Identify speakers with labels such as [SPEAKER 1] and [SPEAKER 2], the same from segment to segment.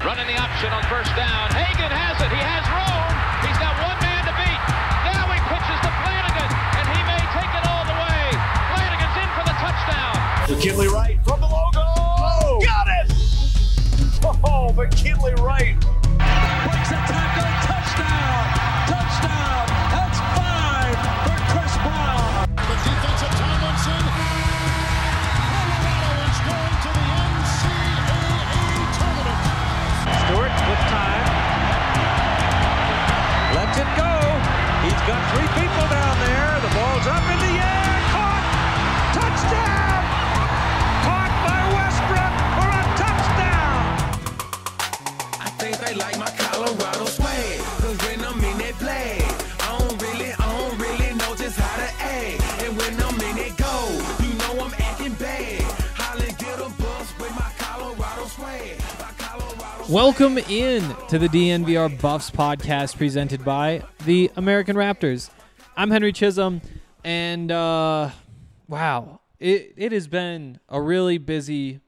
[SPEAKER 1] Running the option on first down. Hagan has it. He has room. He's got one man to beat. Now he pitches to Flanagan, and he may take it all the way. Flanagan's in for the touchdown.
[SPEAKER 2] McKinley Wright from the logo. Oh, got it! Oh, McKinley Wright.
[SPEAKER 3] Breaks a tackle. Touchdown. Touchdown. That's 5 for Chris Brown.
[SPEAKER 4] The defensive Tomlinson. Colorado is going to the NCAA tournament.
[SPEAKER 3] Stewart with time. Lets it go. He's got 3 people down there. The ball's up in the air. Caught. Touchdown. Caught by Westbrook for a touchdown.
[SPEAKER 5] I think they like my Colorado swag. Cause when I'm in that play, I don't really know just how to act. And when I'm in it go, you know I'm acting bad. Holly get a bus with my Colorado swag.
[SPEAKER 6] Welcome in to the DNVR Buffs podcast presented by the American Raptors. I'm Henry Chisholm, and wow, it has been a really busy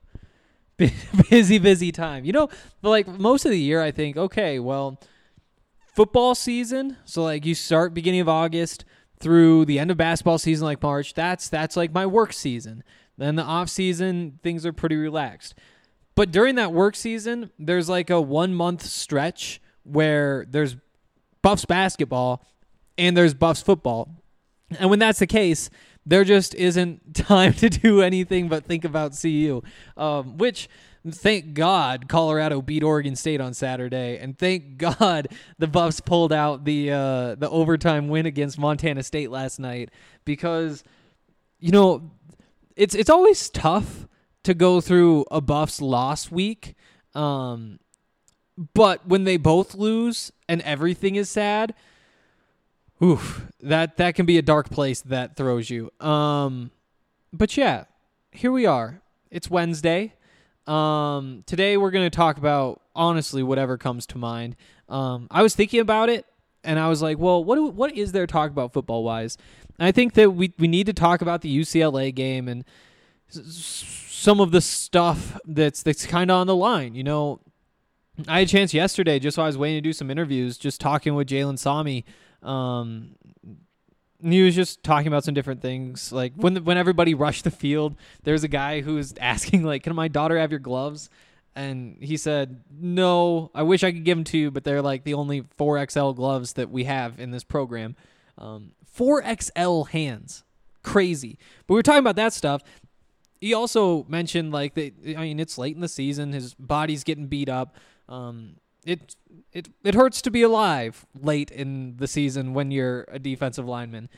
[SPEAKER 6] time. You know, like most of the year, I think, okay, well, football season, so like you start beginning of August through the end of basketball season, like March, that's like my work season. Then the off season, things are pretty relaxed. But during that work season, there's like a 1 month stretch where there's Buffs basketball and there's Buffs football. And when that's the case, there just isn't time to do anything but think about CU, which thank God Colorado beat Oregon State on Saturday. And thank God the Buffs pulled out the overtime win against Montana State last night, because, you know, it's always tough to go through a Buffs loss week. But when they both lose and everything is sad, oof, that can be a dark place that throws you. But yeah, here we are. It's Wednesday. Today we're going to talk about, honestly, whatever comes to mind. I was thinking about it and I was like, well, what is there to talk about football wise? And I think that we need to talk about the UCLA game and some of the stuff that's kind of on the line. You know, I had a chance yesterday, just while I was waiting to do some interviews, just talking with Jalen Sami. He was just talking about some different things. Like when everybody rushed the field, there's a guy who was asking, like, can my daughter have your gloves? And he said, no, I wish I could give them to you, but they're like the only 4XL gloves that we have in this program. 4XL hands. Crazy. But we were talking about that stuff. He also mentioned, like, it's late in the season. His body's getting beat up. It hurts to be alive late in the season when you're a defensive lineman.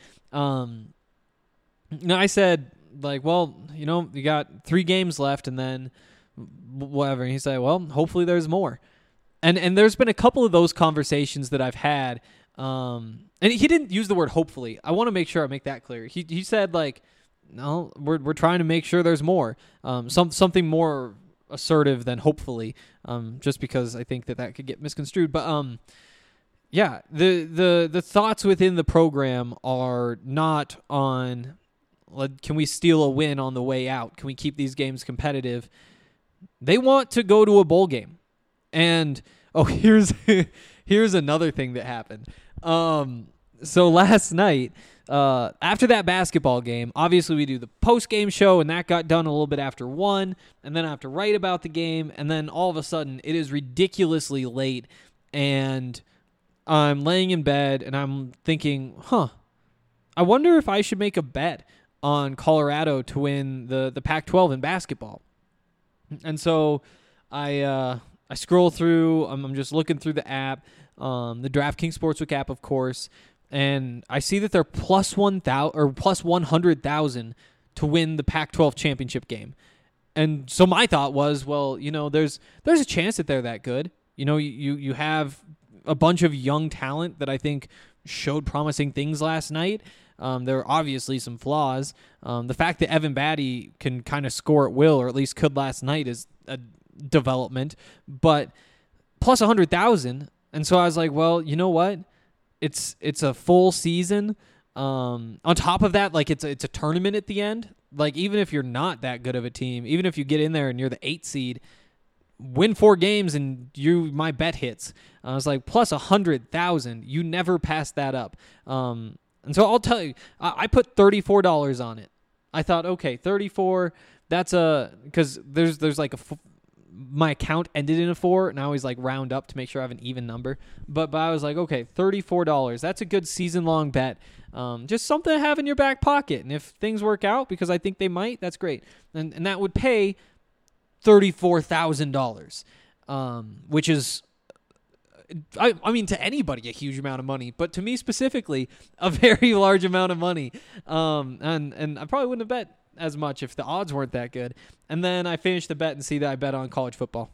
[SPEAKER 6] I said, like, well, you know, you got 3 games left and then whatever. And he said, well, hopefully there's more. And there's been a couple of those conversations that I've had. And he didn't use the word hopefully. I want to make sure I make that clear. He said, like, no, we're trying to make sure there's more. Something more assertive than hopefully, just because I think that could get misconstrued. But yeah, the thoughts within the program are not on, can we steal a win on the way out? Can we keep these games competitive? They want to go to a bowl game. And here's another thing that happened. So last night, after that basketball game, obviously we do the post-game show, and that got done a little bit after 1, and then I have to write about the game, and then all of a sudden it is ridiculously late, and I'm laying in bed, and I'm thinking, I wonder if I should make a bet on Colorado to win the Pac-12 in basketball. And so I scroll through, I'm just looking through the app, the DraftKings Sportsbook app, of course, and I see that they're plus 1,000 or plus 100,000 to win the Pac-12 championship game. And so my thought was, well, you know, there's a chance that they're that good. You know, you have a bunch of young talent that I think showed promising things last night. There are obviously some flaws. The fact that Evan Batty can kind of score at will, or at least could last night, is a development. But plus 100,000, and so I was like, well, you know what? It's a full season. On top of that, like it's a tournament at the end. Like even if you're not that good of a team, even if you get in there and you're the 8th seed, win 4 games and my bet hits. I was like, plus 100,000. You never pass that up. And so I'll tell you, I put $34 on it. I thought, okay, 34. That's because there's like my account ended in a 4, and I always like round up to make sure I have an even number. But I was like, okay, $34. That's a good season-long bet. Just something to have in your back pocket. And if things work out, because I think they might, that's great. And that would pay $34,000, which is, I mean, to anybody, a huge amount of money, but to me specifically, a very large amount of money. And I probably wouldn't have bet as much if the odds weren't that good. And then I finished the bet and see that I bet on college football.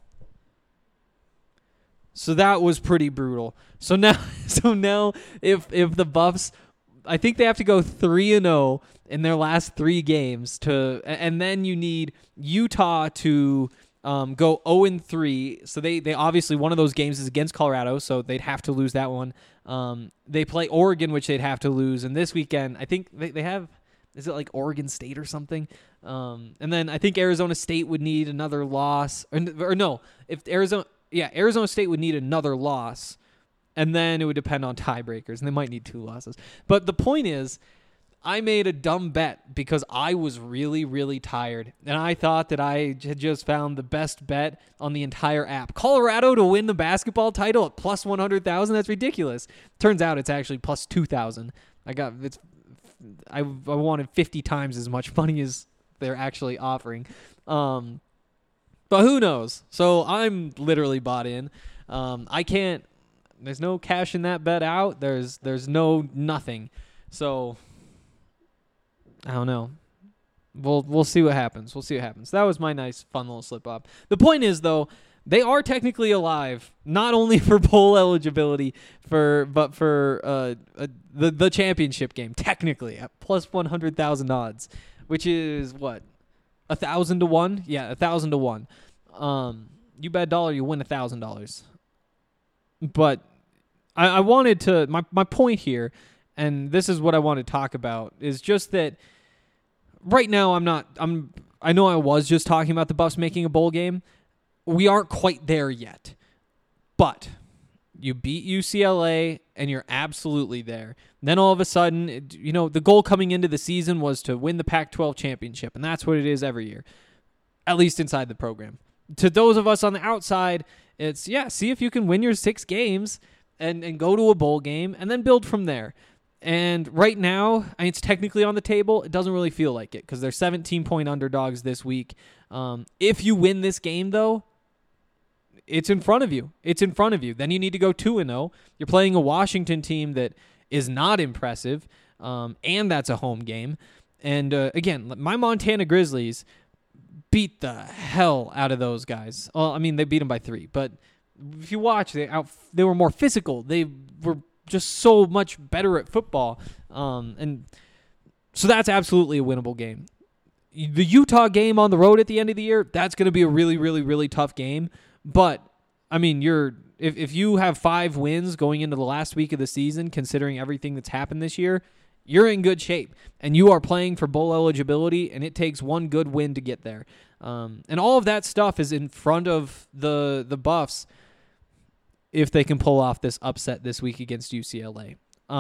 [SPEAKER 6] So that was pretty brutal. So now if the Buffs, I think they have to go 3-0 in their last 3 games and then you need Utah to go 0-3. So they obviously, one of those games is against Colorado, so they'd have to lose that one. They play Oregon, which they'd have to lose. And this weekend, I think they have, is it like Oregon State or something? And then I think Arizona State would need another loss. Or no, if Arizona State would need another loss. And then it would depend on tiebreakers, and they might need 2 losses. But the point is, I made a dumb bet because I was really, really tired. And I thought that I had just found the best bet on the entire app. Colorado to win the basketball title at plus 100,000? That's ridiculous. Turns out it's actually plus 2,000. I wanted 50 times as much money as they're actually offering. But who knows? So I'm literally bought in. I can't. There's no cash in that bet out. There's no nothing. So I don't know. We'll see what happens. That was my nice fun little slip up. The point is though, they are technically alive, not only for bowl eligibility but for the championship game, technically at plus 100,000 odds, which is what, 1,000 to 1? Yeah, 1,000 to 1. You bet $1, you win $1,000. But I wanted to, my point here, and this is what I want to talk about, is just that right now I know I was just talking about the Buffs making a bowl game. We aren't quite there yet. But you beat UCLA and you're absolutely there. Then all of a sudden, the goal coming into the season was to win the Pac-12 championship, and that's what it is every year, at least inside the program. To those of us on the outside, it's, see if you can win your 6 games and go to a bowl game and then build from there. And right now, it's technically on the table. It doesn't really feel like it because they're 17-point underdogs this week. If you win this game, though, it's in front of you. Then you need to go 2-0. You're playing a Washington team that is not impressive, and that's a home game. And again, my Montana Grizzlies beat the hell out of those guys. Well, I mean, they beat them by 3, but if you watch, they were more physical. They were just so much better at football. And so that's absolutely a winnable game. The Utah game on the road at the end of the year, that's going to be a really, really, really tough game. But, I mean, if you have 5 wins going into the last week of the season, considering everything that's happened this year, you're in good shape, and you are playing for bowl eligibility, and it takes one good win to get there. And all of that stuff is in front of the Buffs if they can pull off this upset this week against UCLA.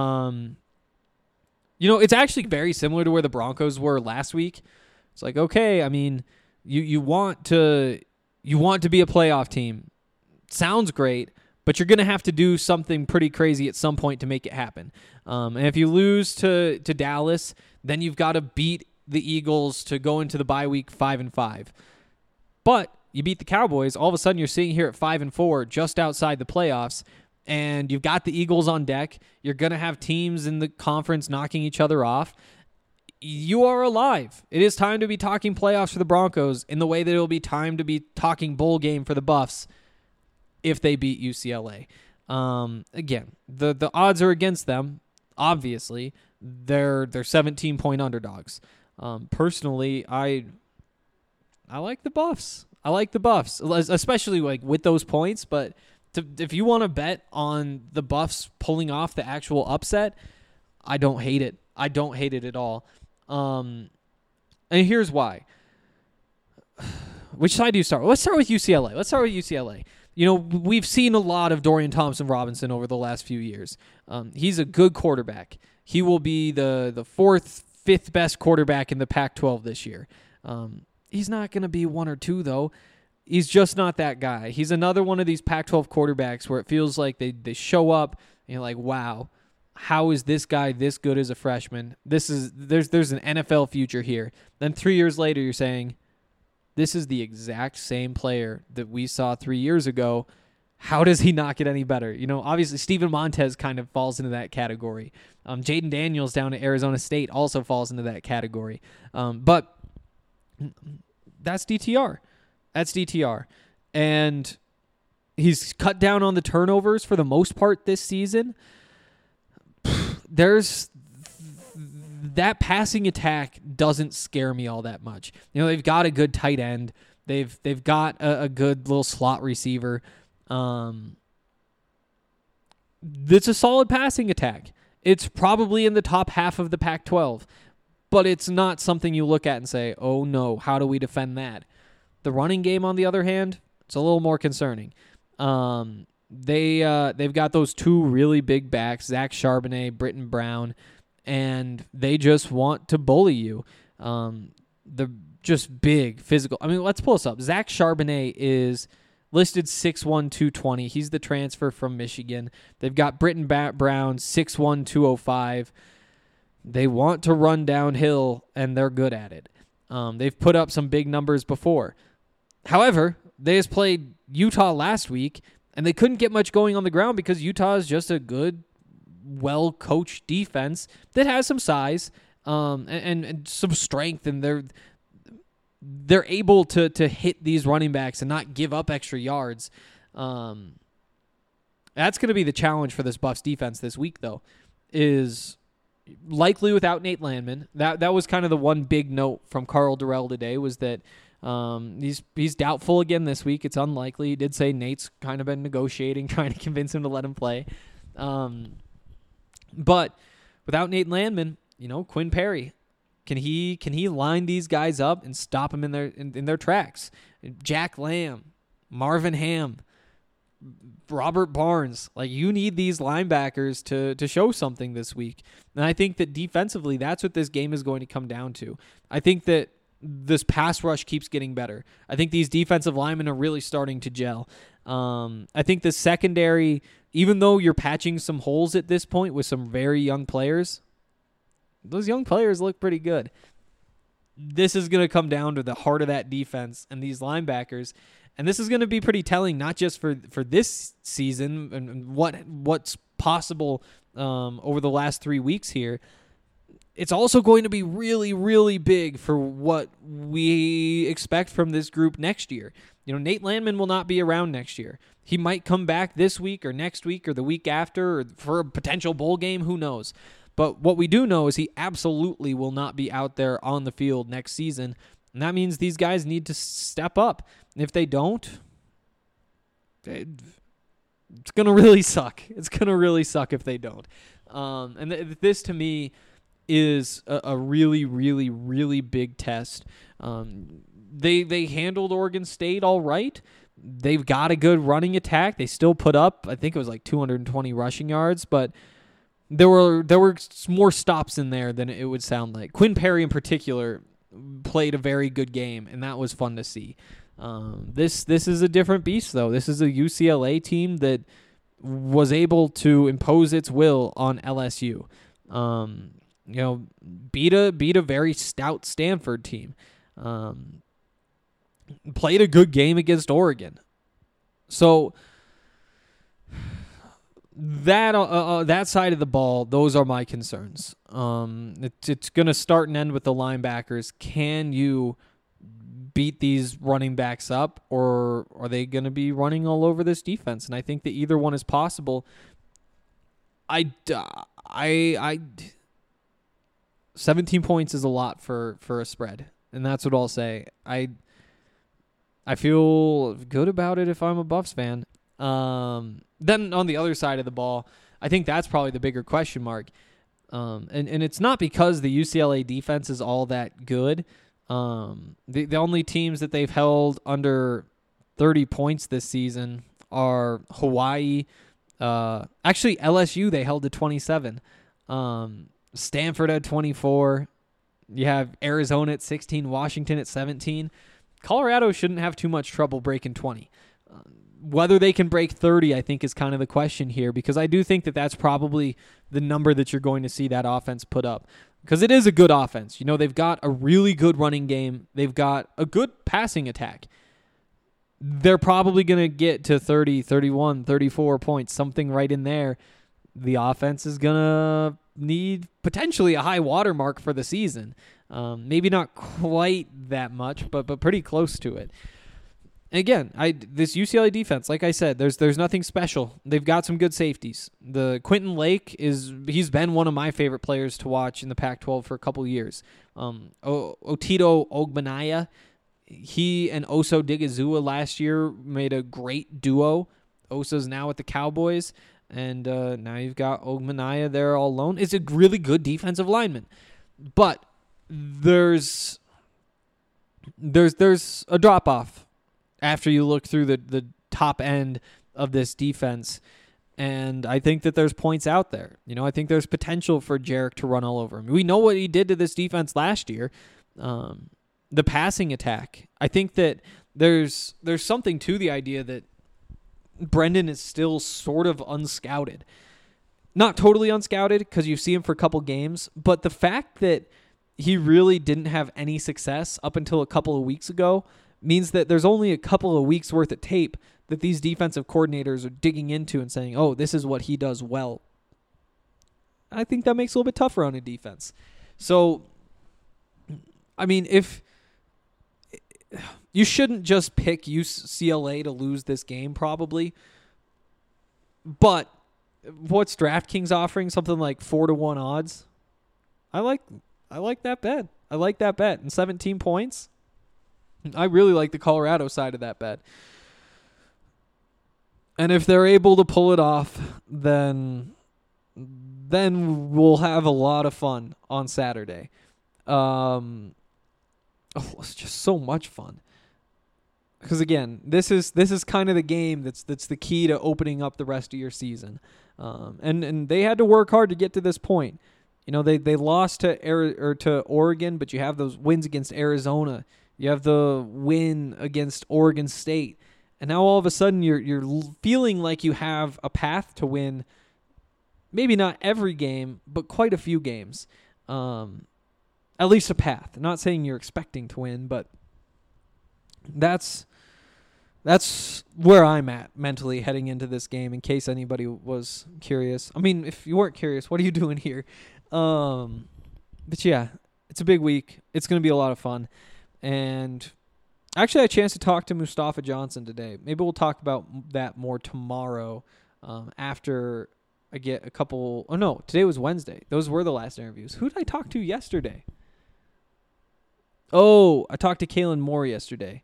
[SPEAKER 6] It's actually very similar to where the Broncos were last week. It's like, okay, I mean, you want to be a playoff team. Sounds great, but you're going to have to do something pretty crazy at some point to make it happen. And if you lose to Dallas, then you've got to beat the Eagles to go into the bye week 5-5. But you beat the Cowboys, all of a sudden you're sitting here at 5-4, just outside the playoffs, and you've got the Eagles on deck. You're going to have teams in the conference knocking each other off. You are alive. It is time to be talking playoffs for the Broncos in the way that it will be time to be talking bowl game for the Buffs if they beat UCLA. Again, the odds are against them. Obviously, they're 17-point underdogs. Personally, I like the Buffs. Especially like with those points. But if you want to bet on the Buffs pulling off the actual upset, I don't hate it. I don't hate it at all. And here's why. Which side do you start with? Let's start with UCLA. You know, we've seen a lot of Dorian Thompson-Robinson over the last few years. He's a good quarterback. He will be the fourth, fifth best quarterback in the Pac-12 this year. He's not going to be 1 or 2, though. He's just not that guy. He's another one of these Pac-12 quarterbacks where it feels like they show up and you're like, wow, how is this guy this good as a freshman? There's an NFL future here. Then 3 years later, you're saying, this is the exact same player that we saw 3 years ago. How does he not get any better? You know, obviously Steven Montez kind of falls into that category. Jaden Daniels down at Arizona State also falls into that category. But that's DTR. And he's cut down on the turnovers for the most part this season. That passing attack doesn't scare me all that much. You know, they've got a good tight end. They've got a good little slot receiver. It's a solid passing attack. It's probably in the top half of the Pac-12, but it's not something you look at and say, oh no, how do we defend that? The running game, on the other hand, it's a little more concerning. They've got those two really big backs, Zach Charbonnet, Britton Brown, and they just want to bully you. They're just big, physical. I mean, let's pull this up. Zach Charbonnet is listed 6'1", 220. He's the transfer from Michigan. They've got Britton Brown, 6'1", 205. They want to run downhill, and they're good at it. They've put up some big numbers before. However, they just played Utah last week, and they couldn't get much going on the ground because Utah is just a good, well-coached defense that has some size and some strength, and they're able to hit these running backs and not give up extra yards. That's going to be the challenge for this Buffs defense this week, though, is likely without Nate Landman. That was kind of the one big note from Karl Dorrell today, was that he's doubtful again this week. It's unlikely. He did say Nate's kind of been negotiating, trying to convince him to let him play. But without Nate Landman, you know, Quinn Perry, can he line these guys up and stop them in their tracks? Jack Lamb, Marvin Ham, Robert Barnes, like, you need these linebackers to show something this week. And I think that defensively, that's what this game is going to come down to. I think that this pass rush keeps getting better. I think these defensive linemen are really starting to gel. I think the secondary, even though you're patching some holes at this point with some very young players, those young players look pretty good. This is going to come down to the heart of that defense and these linebackers. And this is going to be pretty telling, not just for this season and what's possible over the last 3 weeks here. It's also going to be really, really big for what we expect from this group next year. You know, Nate Landman will not be around next year. He might come back this week or next week or the week after or for a potential bowl game. Who knows? But what we do know is he absolutely will not be out there on the field next season. And that means these guys need to step up. And if they don't, it's going to really suck. It's going to really suck if they don't. This, to me, is a really, really, really big test. They handled Oregon State all right. They've got a good running attack. They still put up, I think it was like 220 rushing yards, but there were more stops in there than it would sound like. Quinn Perry in particular played a very good game, and that was fun to see. This is a different beast, though. This is a UCLA team that was able to impose its will on LSU. You know, beat a very stout Stanford team. Played a good game against Oregon. So that side of the ball, those are my concerns. It's going to start and end with the linebackers. Can you beat these running backs up, or are they going to be running all over this defense? And I think that either one is possible. 17 points is a lot for a spread, and that's what I'll say. I feel good about it if I'm a Buffs fan. Then on the other side of the ball, I think that's probably the bigger question mark. And it's not because the UCLA defense is all that good. The only teams that they've held under 30 points this season are Hawaii. Actually, LSU, they held to 27. Stanford at 24. You have Arizona at 16, Washington at 17. Colorado shouldn't have too much trouble breaking 20. Whether they can break 30, I think, is kind of the question here, because I do think that that's probably the number that you're going to see that offense put up, because it is a good offense. You know, they've got a really good running game. They've got a good passing attack. They're probably going to get to 30, 31, 34 points, something right in there. The offense is going to need potentially a high watermark for the season. Maybe not quite that much, but pretty close to it. Again, this UCLA defense, like I said, there's nothing special. They've got some good safeties. The Quentin Lake he's been one of my favorite players to watch in the Pac-12 for a couple years. Otito Ogbenaya, he and Oso Digizua last year made a great duo. Osa's now with the Cowboys, and now you've got Ogbenaya there all alone. It's a really good defensive lineman, but there's a drop off after you look through the top end of this defense. And I think that there's points out there. You know, I think there's potential for Jarek to run all over him. We know what he did to this defense last year. The passing attack. I think that there's something to the idea that Brendan is still sort of unscouted. Not totally unscouted, because you see him for a couple games, but the fact that he really didn't have any success up until a couple of weeks ago means that there's only a couple of weeks worth of tape that these defensive coordinators are digging into and saying, oh, this is what he does well. I think that makes it a little bit tougher on a defense. So, I mean, if you shouldn't just pick UCLA to lose this game, probably. But what's DraftKings offering? Something like 4-1 odds. I like that bet. I like that bet. And 17 points. I really like the Colorado side of that bet. And if they're able to pull it off, then we'll have a lot of fun on Saturday. It's just so much fun. Because again, this is kind of the game that's the key to opening up the rest of your season. And they had to work hard to get to this point. You know, they lost to Oregon, but you have those wins against Arizona. You have the win against Oregon State. And now all of a sudden you're feeling like you have a path to win, maybe not every game, but quite a few games. At least a path. I'm not saying you're expecting to win, but that's where I'm at mentally heading into this game, in case anybody was curious. I mean, if you weren't curious, what are you doing here? But yeah, it's a big week. It's going to be a lot of fun. And actually I had a chance to talk to Mustafa Johnson today. Maybe we'll talk about that more tomorrow after I get a couple. Oh, no, today was Wednesday. Those were the last interviews. Who did I talk to yesterday? Oh, I talked to Kalen Moore yesterday.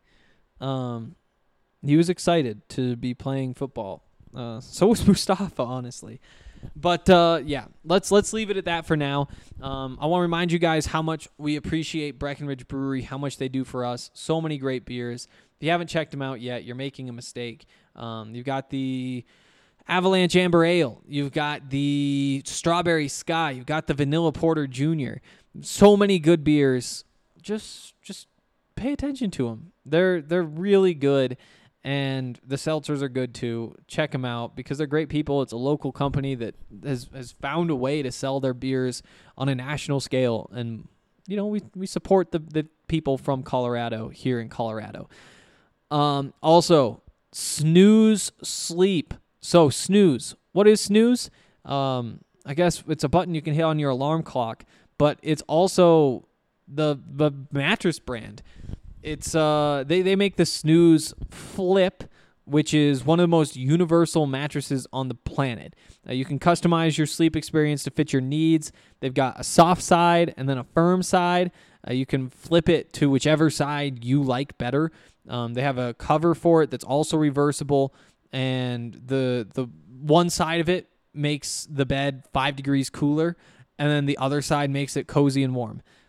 [SPEAKER 6] He was excited to be playing football. So was Mustafa, honestly. But, yeah, let's leave it at that for now. I want to remind you guys how much we appreciate Breckenridge Brewery, how much they do for us. So many great beers. If you haven't checked them out yet, you're making a mistake. You've got the Avalanche Amber Ale. You've got the Strawberry Sky. You've got the Vanilla Porter Jr. So many good beers. Just pay attention to them. They're really good. And the seltzers are good too. Check them out because they're great people. It's a local company that has found a way to sell their beers on a national scale. And, you know, we support the people from Colorado here in Colorado. Also, Snooze Sleep. So, Snooze. What is Snooze? I guess it's a button you can hit on your alarm clock, but it's also the mattress brand. It's they make the Snooze Flip, which is one of the most universal mattresses on the planet. You can customize your sleep experience to fit your needs. They've got a soft side and then a firm side. You can flip it to whichever side you like better. They have a cover for it that's also reversible, and the one side of it makes the bed 5 degrees cooler, and then the other side makes it cozy and warm.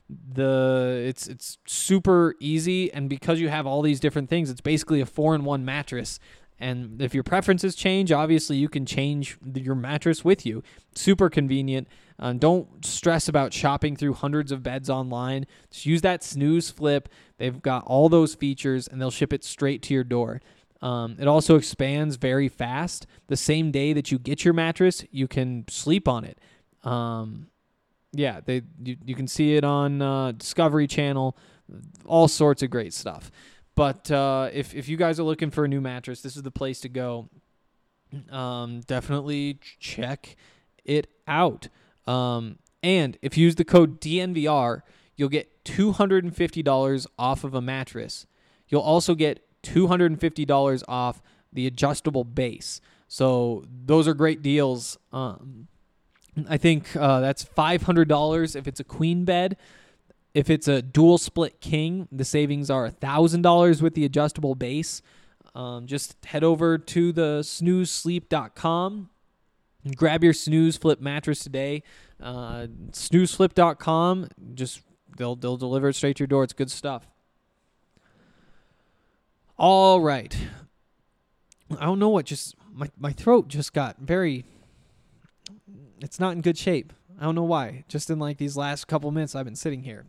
[SPEAKER 6] It's super easy, and because you have all these different things, it's basically a 4-in-1 mattress. And if your preferences change, obviously you can change your mattress with you. Super convenient. Don't stress about shopping through hundreds of beds online. Just use that Snooze Flip. They've got all those features, and they'll ship it straight to your door. It also expands very fast. The same day that you get your mattress, you can sleep on it. Yeah, you can see it on Discovery Channel. All sorts of great stuff. But if you guys are looking for a new mattress, this is the place to go. Definitely check it out. And if you use the code DNVR, you'll get $250 off of a mattress. You'll also get $250 off the adjustable base. So those are great deals. I think that's $500 if it's a queen bed. If it's a dual split king, the savings are $1,000 with the adjustable base. Just head over to the snoozesleep.com. Grab your Snooze Flip mattress today. Snoozeflip.com. Just they'll deliver it straight to your door. It's good stuff. All right. I don't know what just my throat just got very. It's not in good shape. I don't know why. Just in like these last couple minutes I've been sitting here.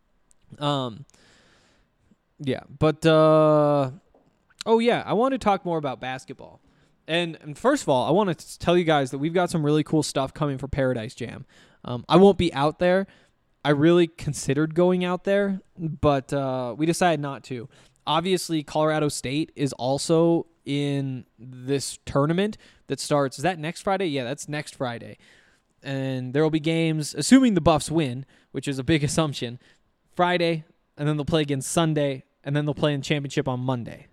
[SPEAKER 6] Yeah, but I want to talk more about basketball. And first of all, I want to tell you guys that we've got some really cool stuff coming for Paradise Jam. I won't be out there. I really considered going out there, but we decided not to. Obviously, Colorado State is also in this tournament that starts. Is that next Friday? Yeah, that's next Friday. And there will be games, assuming the Buffs win, which is a big assumption, Friday, and then they'll play again Sunday, and then they'll play in championship on Monday.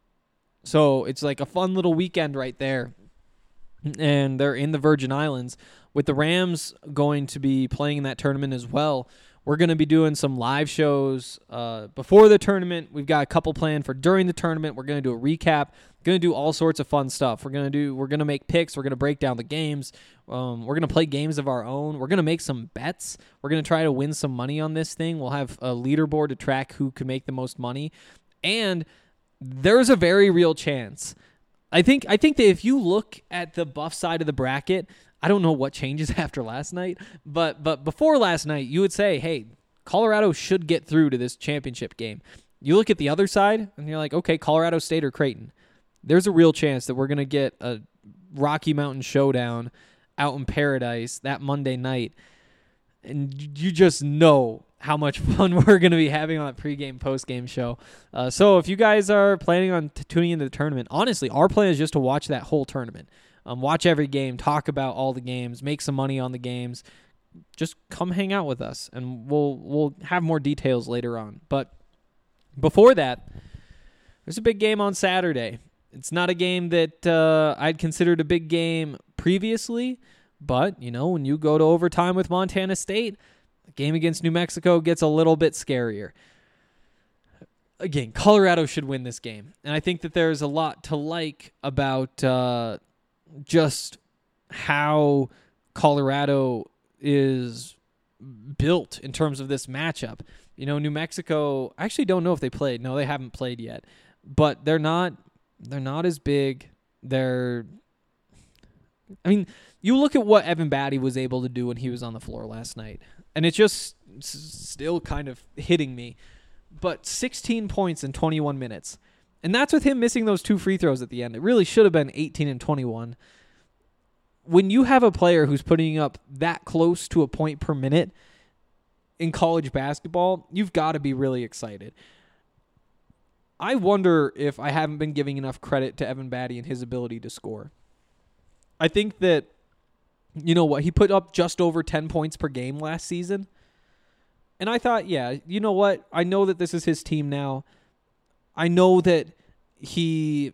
[SPEAKER 6] So it's like a fun little weekend right there. And they're in the Virgin Islands. With the Rams going to be playing in that tournament as well, we're going to be doing some live shows before the tournament. We've got a couple planned for during the tournament. We're going to do a recap. Going to do all sorts of fun stuff. We're going to make picks. We're going to break down the games. We're going to play games of our own. We're going to make some bets. We're going to try to win some money on this thing. We'll have a leaderboard to track who can make the most money. And there's a very real chance. I think that if you look at the Buff side of the bracket, I don't know what changes after last night, but before last night, you would say, hey, Colorado should get through to this championship game. You look at the other side, and you're like, okay, Colorado State or Creighton. There's a real chance that we're going to get a Rocky Mountain showdown out in Paradise that Monday night, and you just know how much fun we're going to be having on that pregame, postgame show. So if you guys are planning on tuning into the tournament, honestly, our plan is just to watch that whole tournament. Watch every game, talk about all the games, make some money on the games. Just come hang out with us, and we'll have more details later on. But before that, there's a big game on Saturday. It's not a game that I'd considered a big game previously, but, you know, when you go to overtime with Montana State, the game against New Mexico gets a little bit scarier. Again, Colorado should win this game, and I think that there's a lot to like about just how Colorado is built in terms of this matchup. You know, New Mexico, I actually don't know if they played. No, they haven't played yet, but they're not as big. You look at what Evan Batty was able to do when he was on the floor last night, and it's just still kind of hitting me. But 16 points in 21 minutes. And that's with him missing those 2 free throws at the end. It really should have been 18 and 21. When you have a player who's putting up that close to a point per minute in college basketball, you've got to be really excited. I wonder if I haven't been giving enough credit to Evan Batty and his ability to score. I think that, you know what, he put up just over 10 points per game last season. And I thought, yeah, you know what, I know that this is his team now. I know that he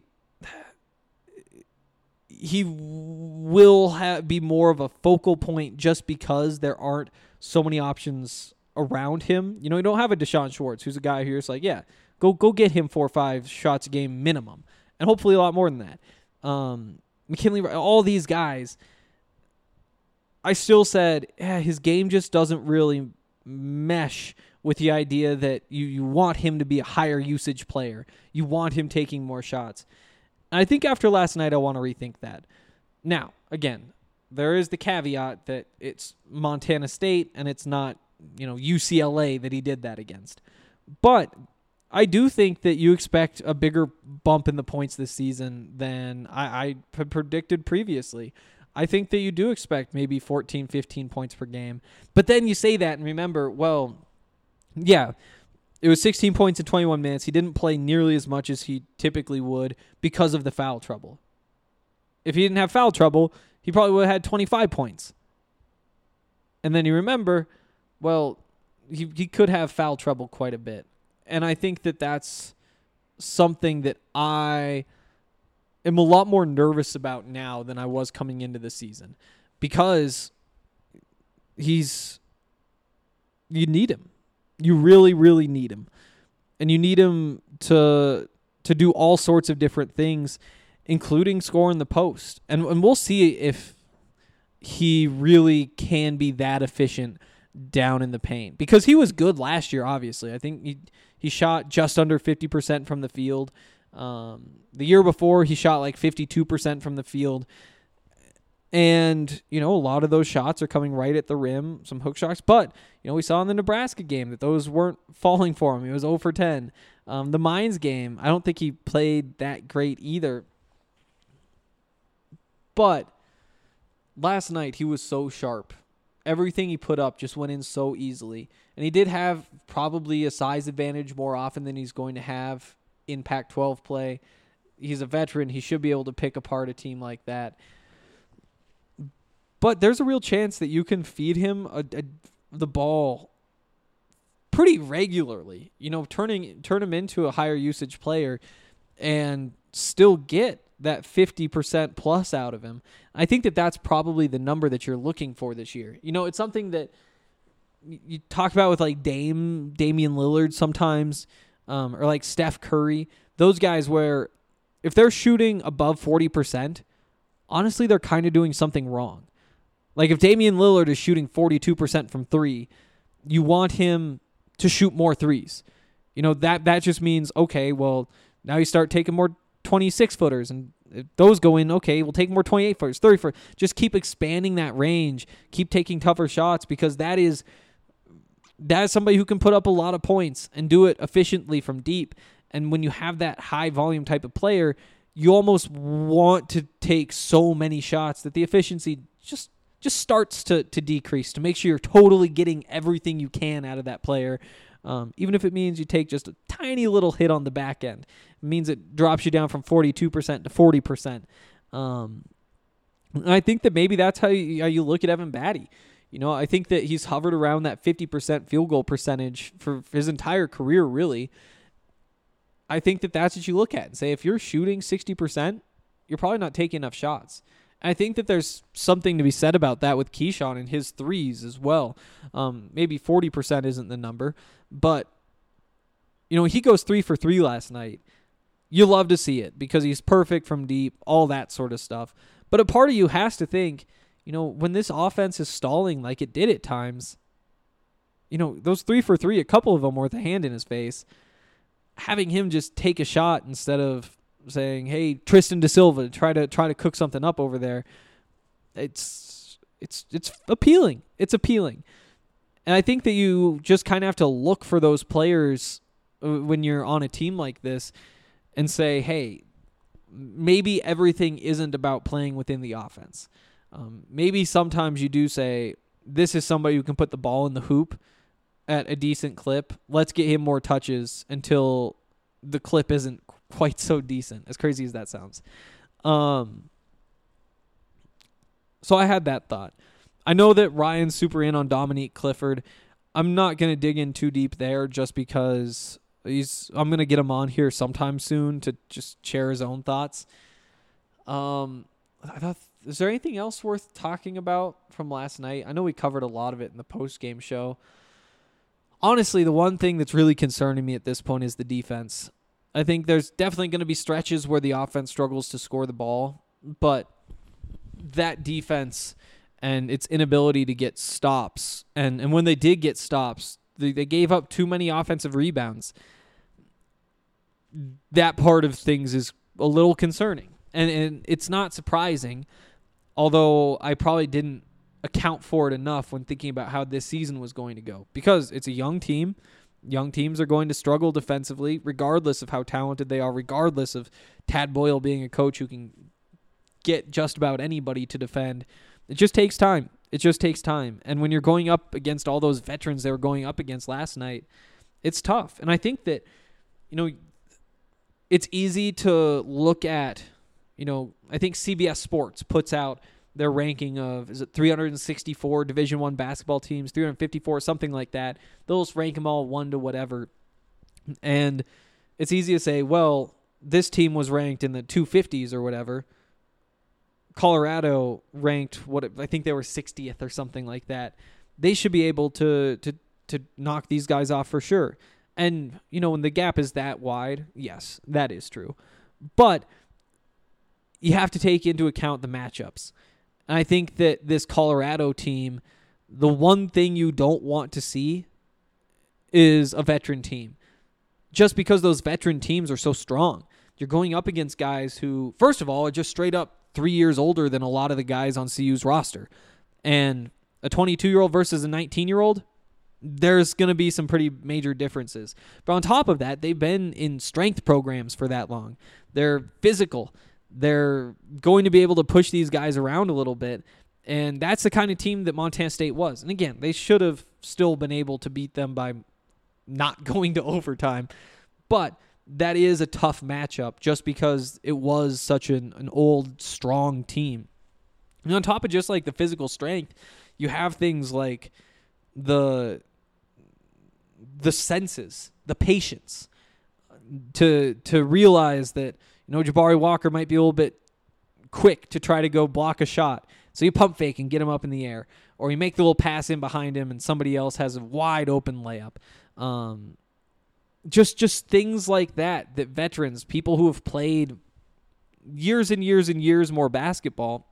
[SPEAKER 6] will be more of a focal point just because there aren't so many options around him. You know, you don't have a Deshaun Schwartz, who's a guy who's like, yeah, go get him 4 or 5 shots a game minimum, and hopefully a lot more than that. McKinley, all these guys, I still said, his game just doesn't really mesh with the idea that you want him to be a higher usage player. You want him taking more shots. And I think after last night, I want to rethink that. Now, again, there is the caveat that it's Montana State and it's not, UCLA that he did that against. But I do think that you expect a bigger bump in the points this season than I had predicted previously. I think that you do expect maybe 14, 15 points per game. But then you say that and remember, well, yeah, it was 16 points in 21 minutes. He didn't play nearly as much as he typically would because of the foul trouble. If he didn't have foul trouble, he probably would have had 25 points. And then you remember, well, he could have foul trouble quite a bit. And I think that that's something that I am a lot more nervous about now than I was coming into the season. Because you need him. You really, really need him. And you need him to do all sorts of different things, including scoring the post. And we'll see if he really can be that efficient down in the paint. Because he was good last year, obviously. I think he shot just under 50% from the field. The year before, he shot like 52% from the field. And, a lot of those shots are coming right at the rim, some hook shots. But, we saw in the Nebraska game that those weren't falling for him. He was 0 for 10. The Mines game, I don't think he played that great either. But last night, he was so sharp. Everything he put up just went in so easily. And he did have probably a size advantage more often than he's going to have in Pac-12 play. He's a veteran. He should be able to pick apart a team like that. But there's a real chance that you can feed him the ball pretty regularly. Turn him into a higher usage player and still get that 50% plus out of him. I think that that's probably the number that you're looking for this year. It's something that you talk about with like Damian Lillard sometimes, or like Steph Curry. Those guys where if they're shooting above 40%, honestly, they're kind of doing something wrong. Like if Damian Lillard is shooting 42% from three, you want him to shoot more threes. That just means, okay, well, now you start taking more 26-footers, and if those go in, okay, we'll take more 28-footers, 30-footers. Just keep expanding that range. Keep taking tougher shots because that is somebody who can put up a lot of points and do it efficiently from deep. And when you have that high volume type of player, you almost want to take so many shots that the efficiency just starts to decrease, to make sure you're totally getting everything you can out of that player. Even if it means you take just a tiny little hit on the back end. It means it drops you down from 42% to 40%. I think that maybe that's how you look at Evan Batty. I think that he's hovered around that 50% field goal percentage for his entire career, really. I think that that's what you look at and say, if you're shooting 60%, you're probably not taking enough shots. I think that there's something to be said about that with Keyshawn and his threes as well. Maybe 40% isn't the number, but he goes 3 for 3 last night. You love to see it because he's perfect from deep, all that sort of stuff. But a part of you has to think, when this offense is stalling like it did at times, those 3 for 3, a couple of them were with a hand in his face. Having him just take a shot instead of saying, "Hey, Tristan Da Silva, try to cook something up over there." It's appealing. It's appealing, and I think that you just kind of have to look for those players when you're on a team like this, and say, "Hey, maybe everything isn't about playing within the offense. Maybe sometimes you do say, this is somebody who can put the ball in the hoop at a decent clip. Let's get him more touches until the clip isn't quite so decent," as crazy as that sounds. So I had that thought. I know that Ryan's super in on Dominique Clifford. I'm not going to dig in too deep there just because I'm going to get him on here sometime soon to just share his own thoughts. Is there anything else worth talking about from last night? I know we covered a lot of it in the post-game show. Honestly, the one thing that's really concerning me at this point is the defense. I think there's definitely going to be stretches where the offense struggles to score the ball, but that defense and its inability to get stops. And when they did get stops, they gave up too many offensive rebounds. That part of things is a little concerning. And it's not surprising, although I probably didn't account for it enough when thinking about how this season was going to go. Because it's a young team. Young teams are going to struggle defensively, regardless of how talented they are, regardless of Tad Boyle being a coach who can get just about anybody to defend. It just takes time. It just takes time. And when you're going up against all those veterans they were going up against last night, it's tough. And I think that, it's easy to look at, I think CBS Sports puts out their ranking of, 364 Division I basketball teams, 354, something like that. They'll just rank them all 1 to whatever. And it's easy to say, well, this team was ranked in the 250s or whatever. Colorado ranked, I think they were 60th or something like that. They should be able to knock these guys off for sure. And, when the gap is that wide, yes, that is true. But you have to take into account the matchups. And I think that this Colorado team, the one thing you don't want to see is a veteran team. Just because those veteran teams are so strong. You're going up against guys who, first of all, are just straight up 3 years older than a lot of the guys on CU's roster. And a 22-year-old versus a 19-year-old, there's going to be some pretty major differences. But on top of that, they've been in strength programs for that long. They're physical. They're going to be able to push these guys around a little bit. And that's the kind of team that Montana State was. And again, they should have still been able to beat them by not going to overtime. But that is a tough matchup just because it was such an old, strong team. And on top of just like the physical strength, you have things like the senses, the patience to realize that, Jabari Walker might be a little bit quick to try to go block a shot. So you pump fake and get him up in the air. Or you make the little pass in behind him and somebody else has a wide open layup. Just things like that veterans, people who have played years and years and years more basketball,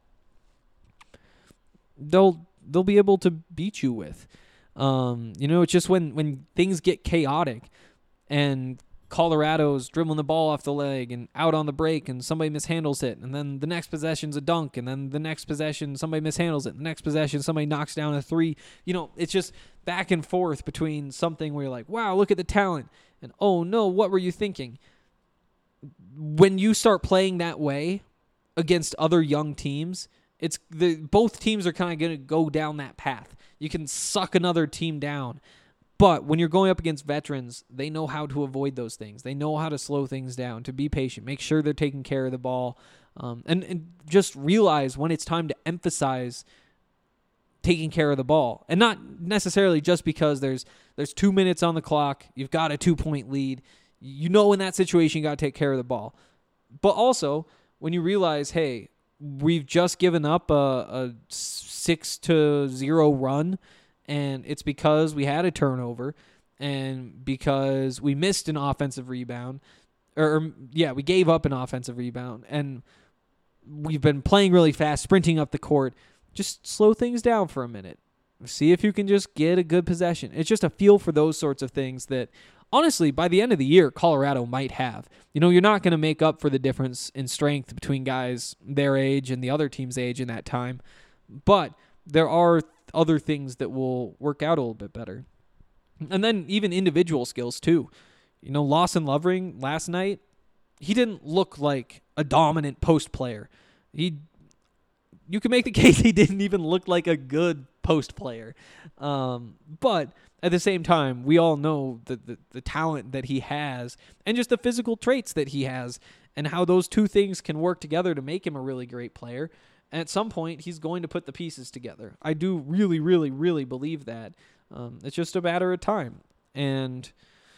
[SPEAKER 6] they'll be able to beat you with. It's just when things get chaotic and Colorado's dribbling the ball off the leg and out on the break and somebody mishandles it, and then the next possession's a dunk, and then the next possession somebody mishandles it, the next possession somebody knocks down a three. It's just back and forth between something where you're like, wow, look at the talent, and oh no, what were you thinking? When you start playing that way against other young teams, both teams are kind of going to go down that path. You can suck another team down. But when you're going up against veterans, they know how to avoid those things. They know how to slow things down, to be patient, make sure they're taking care of the ball, and just realize when it's time to emphasize taking care of the ball. And not necessarily just because there's 2 minutes on the clock, you've got a 2-point lead. In that situation, you got to take care of the ball. But also, when you realize, hey, we've just given up a 6-0 run, and it's because we had a turnover and because we missed an offensive rebound. We gave up an offensive rebound, and we've been playing really fast, sprinting up the court. Just slow things down for a minute. See if you can just get a good possession. It's just a feel for those sorts of things that, honestly, by the end of the year, Colorado might have. You're not going to make up for the difference in strength between guys their age and the other team's age in that time. But there are other things that will work out a little bit better. And then even individual skills too. Lawson Lovering last night, he didn't look like a dominant post player. You can make the case he didn't even look like a good post player. But at the same time, we all know the talent that he has and just the physical traits that he has and how those two things can work together to make him a really great player. And at some point, he's going to put the pieces together. I do really, really, really believe that. It's just a matter of time. And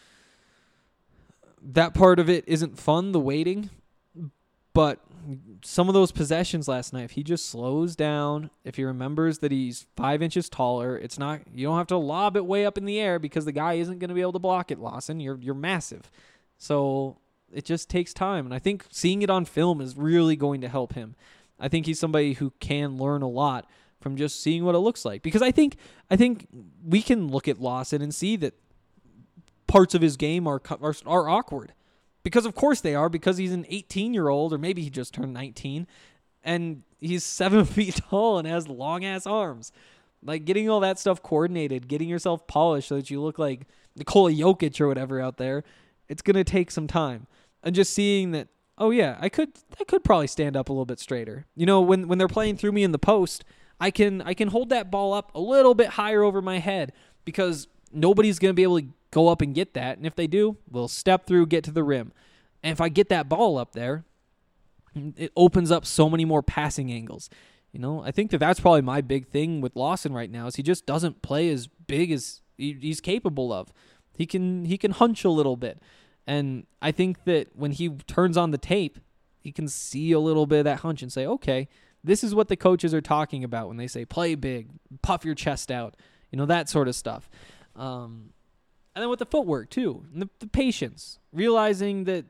[SPEAKER 6] that part of it isn't fun, the waiting. But some of those possessions last night, if he just slows down, if he remembers that he's 5 inches taller, you don't have to lob it way up in the air because the guy isn't going to be able to block it, Lawson. You're massive. So it just takes time. And I think seeing it on film is really going to help him. I think he's somebody who can learn a lot from just seeing what it looks like. Because I think we can look at Lawson and see that parts of his game are awkward. Because of course they are, because he's an 18-year-old, or maybe he just turned 19, and he's 7 feet tall and has long-ass arms. Like, getting all that stuff coordinated, getting yourself polished so that you look like Nikola Jokic or whatever out there, it's going to take some time. And just seeing that, oh yeah, I could probably stand up a little bit straighter. You know, when they're playing through me in the post, I can hold that ball up a little bit higher over my head, because nobody's going to be able to go up and get that. And if they do, we'll step through, get to the rim. And if I get that ball up there, it opens up so many more passing angles. You know, I think that's probably my big thing with Lawson right now, is he just doesn't play as big as he's capable of. He can hunch a little bit. And I think that when he turns on the tape, he can see a little bit of that hunch and say, okay, this is what the coaches are talking about when they say play big, puff your chest out, you know, that sort of stuff. And then with the footwork too, and the patience, realizing that,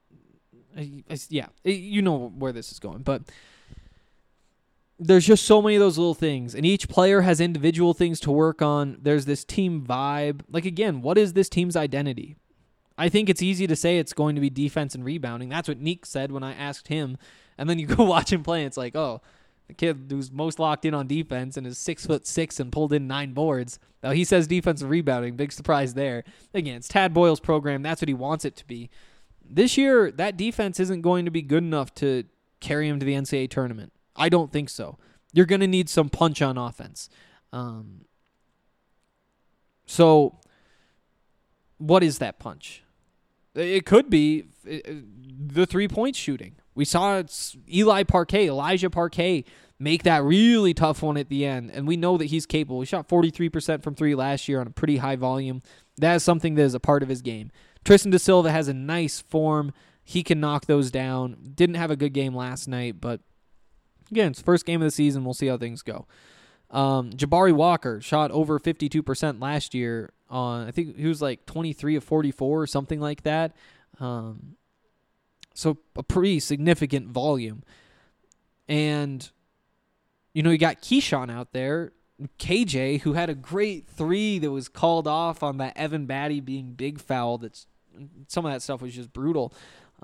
[SPEAKER 6] you know where this is going, but there's just so many of those little things, and each player has individual things to work on. There's this team vibe. Like, again, what is this team's identity? I think it's easy to say it's going to be defense and rebounding. That's what Neek said when I asked him. And then you go watch him play, and it's like, oh, the kid who's most locked in on defense and is 6'6" and pulled in 9 boards. Now he says defense and rebounding. Big surprise there. Again, it's Tad Boyle's program. That's what he wants it to be. This year, that defense isn't going to be good enough to carry him to the NCAA tournament. I don't think so. You're going to need some punch on offense. So what is that punch? It could be the 3-point shooting. We saw Elijah Parquet make that really tough one at the end, and we know that he's capable. He shot 43% from 3 last year on a pretty high volume. That is something that is a part of his game. Tristan Da Silva has a nice form. He can knock those down. Didn't have a good game last night, but again, it's the first game of the season. We'll see how things go. Jabari Walker shot over 52% last year on, I think he was like 23 of 44 or something like that. So a pretty significant volume. And, you know, you got Keyshawn out there, KJ, who had a great 3 that was called off on that Evan Batty being big foul. Some of that stuff was just brutal.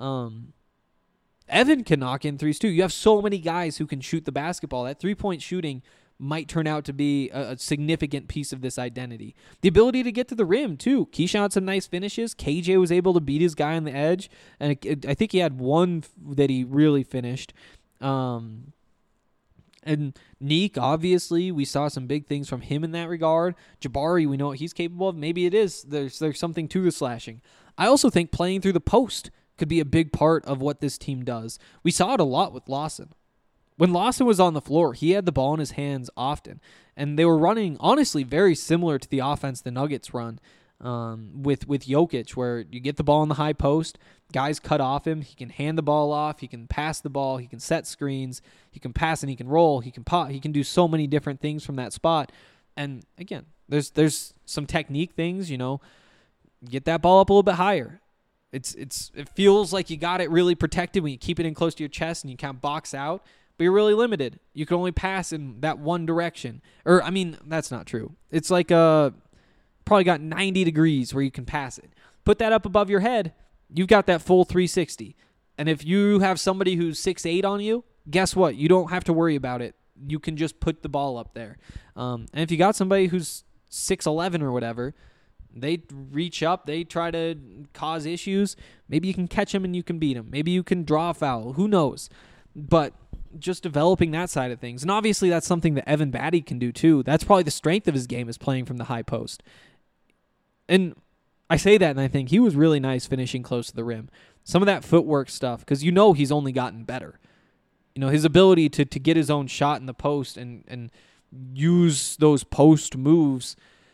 [SPEAKER 6] Evan can knock in 3s too. You have so many guys who can shoot the basketball. That 3-point shooting might turn out to be a significant piece of this identity. The ability to get to the rim too. Keyshawn had some nice finishes. KJ was able to beat his guy on the edge, and I think he had one that he really finished. And Neek, obviously, we saw some big things from him in that regard. Jabari, we know what he's capable of. Maybe it is. There's something to the slashing. I also think playing through the post could be a big part of what this team does. We saw it a lot with Lawson. When Lawson was on the floor, he had the ball in his hands often, and they were running, honestly, very similar to the offense the Nuggets run with Jokic, where you get the ball in the high post, guys cut off him, he can hand the ball off, he can pass the ball, he can set screens, he can pass and he can roll, he can pop, he can do so many different things from that spot. And again, there's some technique things, you know, get that ball up a little bit higher. It feels like you got it really protected when you keep it in close to your chest and you kind of box out, but you're really limited. You can only pass in that one direction. Or, I mean, that's not true. It's like probably got 90 degrees where you can pass it. Put that up above your head, you've got that full 360. And if you have somebody who's 6'8" on you, guess what? You don't have to worry about it. You can just put the ball up there. And if you got somebody who's 6'11" or whatever, they reach up, they try to cause issues. Maybe you can catch them and you can beat them. Maybe you can draw a foul. Who knows? But just developing that side of things. And obviously that's something that Evan Batty can do too. That's probably the strength of his game, is playing from the high post. And I say that and I think he was really nice finishing close to the rim. Some of that footwork stuff, because you know he's only gotten better. You know, his ability to get his own shot in the post and use those post moves,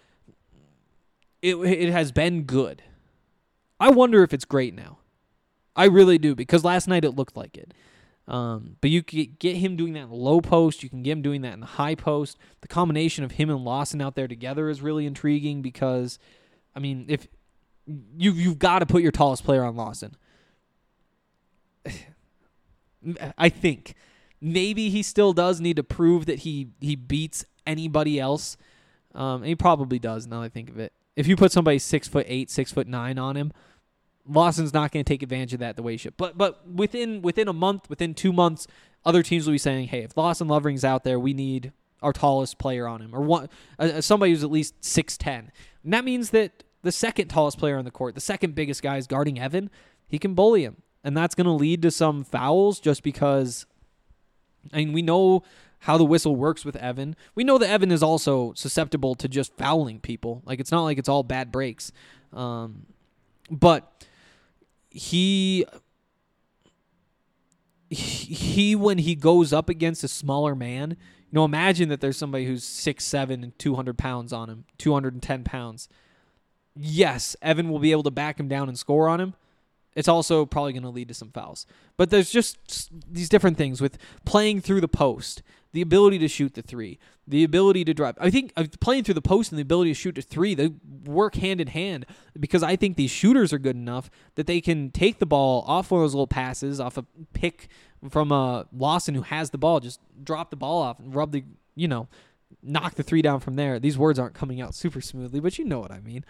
[SPEAKER 6] it has been good. I wonder if it's great now. I really do, because last night it looked like it. But you can get him doing that in the low post. You can get him doing that in the high post. The combination of him and Lawson out there together is really intriguing, because, I mean, if you've got to put your tallest player on Lawson. I think. Maybe he still does need to prove that he beats anybody else. And he probably does, now that I think of it. If you put somebody 6'8", 6'9" on him, Lawson's not going to take advantage of that the way he should. But within a month, within 2 months, other teams will be saying, hey, if Lawson Lovering's out there, we need our tallest player on him, or somebody who's at least 6'10". And that means that the second tallest player on the court, the second biggest guy is guarding Evan. He can bully him. And that's going to lead to some fouls just because, I mean, we know how the whistle works with Evan. We know that Evan is also susceptible to just fouling people. Like, it's not like it's all bad breaks. But he when he goes up against a smaller man, imagine that there's somebody who's 6'7" and 200 pounds on him, 210 pounds. Yes, Evan will be able to back him down and score on him. It's also probably going to lead to some fouls. But there's just these different things with playing through the post, the ability to shoot the three, the ability to drive. I think playing through the post and the ability to shoot the three, they work hand in hand, because I think these shooters are good enough that they can take the ball off one of those little passes, off a pick from Lawson who has the ball, just drop the ball off and knock the three down from there. These words aren't coming out super smoothly, but you know what I mean.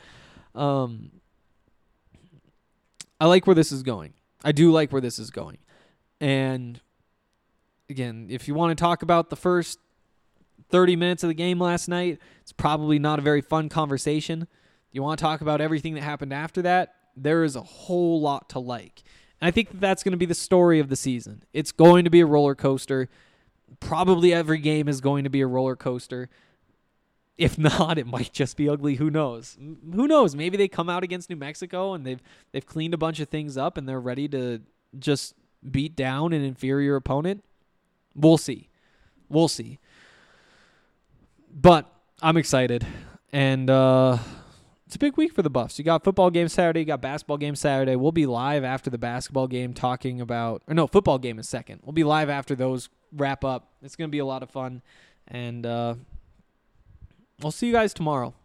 [SPEAKER 6] I like where this is going. I do like where this is going. And again, if you want to talk about the first 30 minutes of the game last night, it's probably not a very fun conversation. You want to talk about everything that happened after that, there is a whole lot to like. And I think that's going to be the story of the season. It's going to be a roller coaster. Probably every game is going to be a roller coaster. If not, it might just be ugly. Who knows? Who knows? Maybe they come out against New Mexico and they've cleaned a bunch of things up and they're ready to just beat down an inferior opponent. We'll see. We'll see. But I'm excited. And it's a big week for the Buffs. You got football game Saturday. You got basketball game Saturday. We'll be live after the basketball game talking about... Or no, football game is second. We'll be live after those wrap up. It's going to be a lot of fun. And... I'll see you guys tomorrow.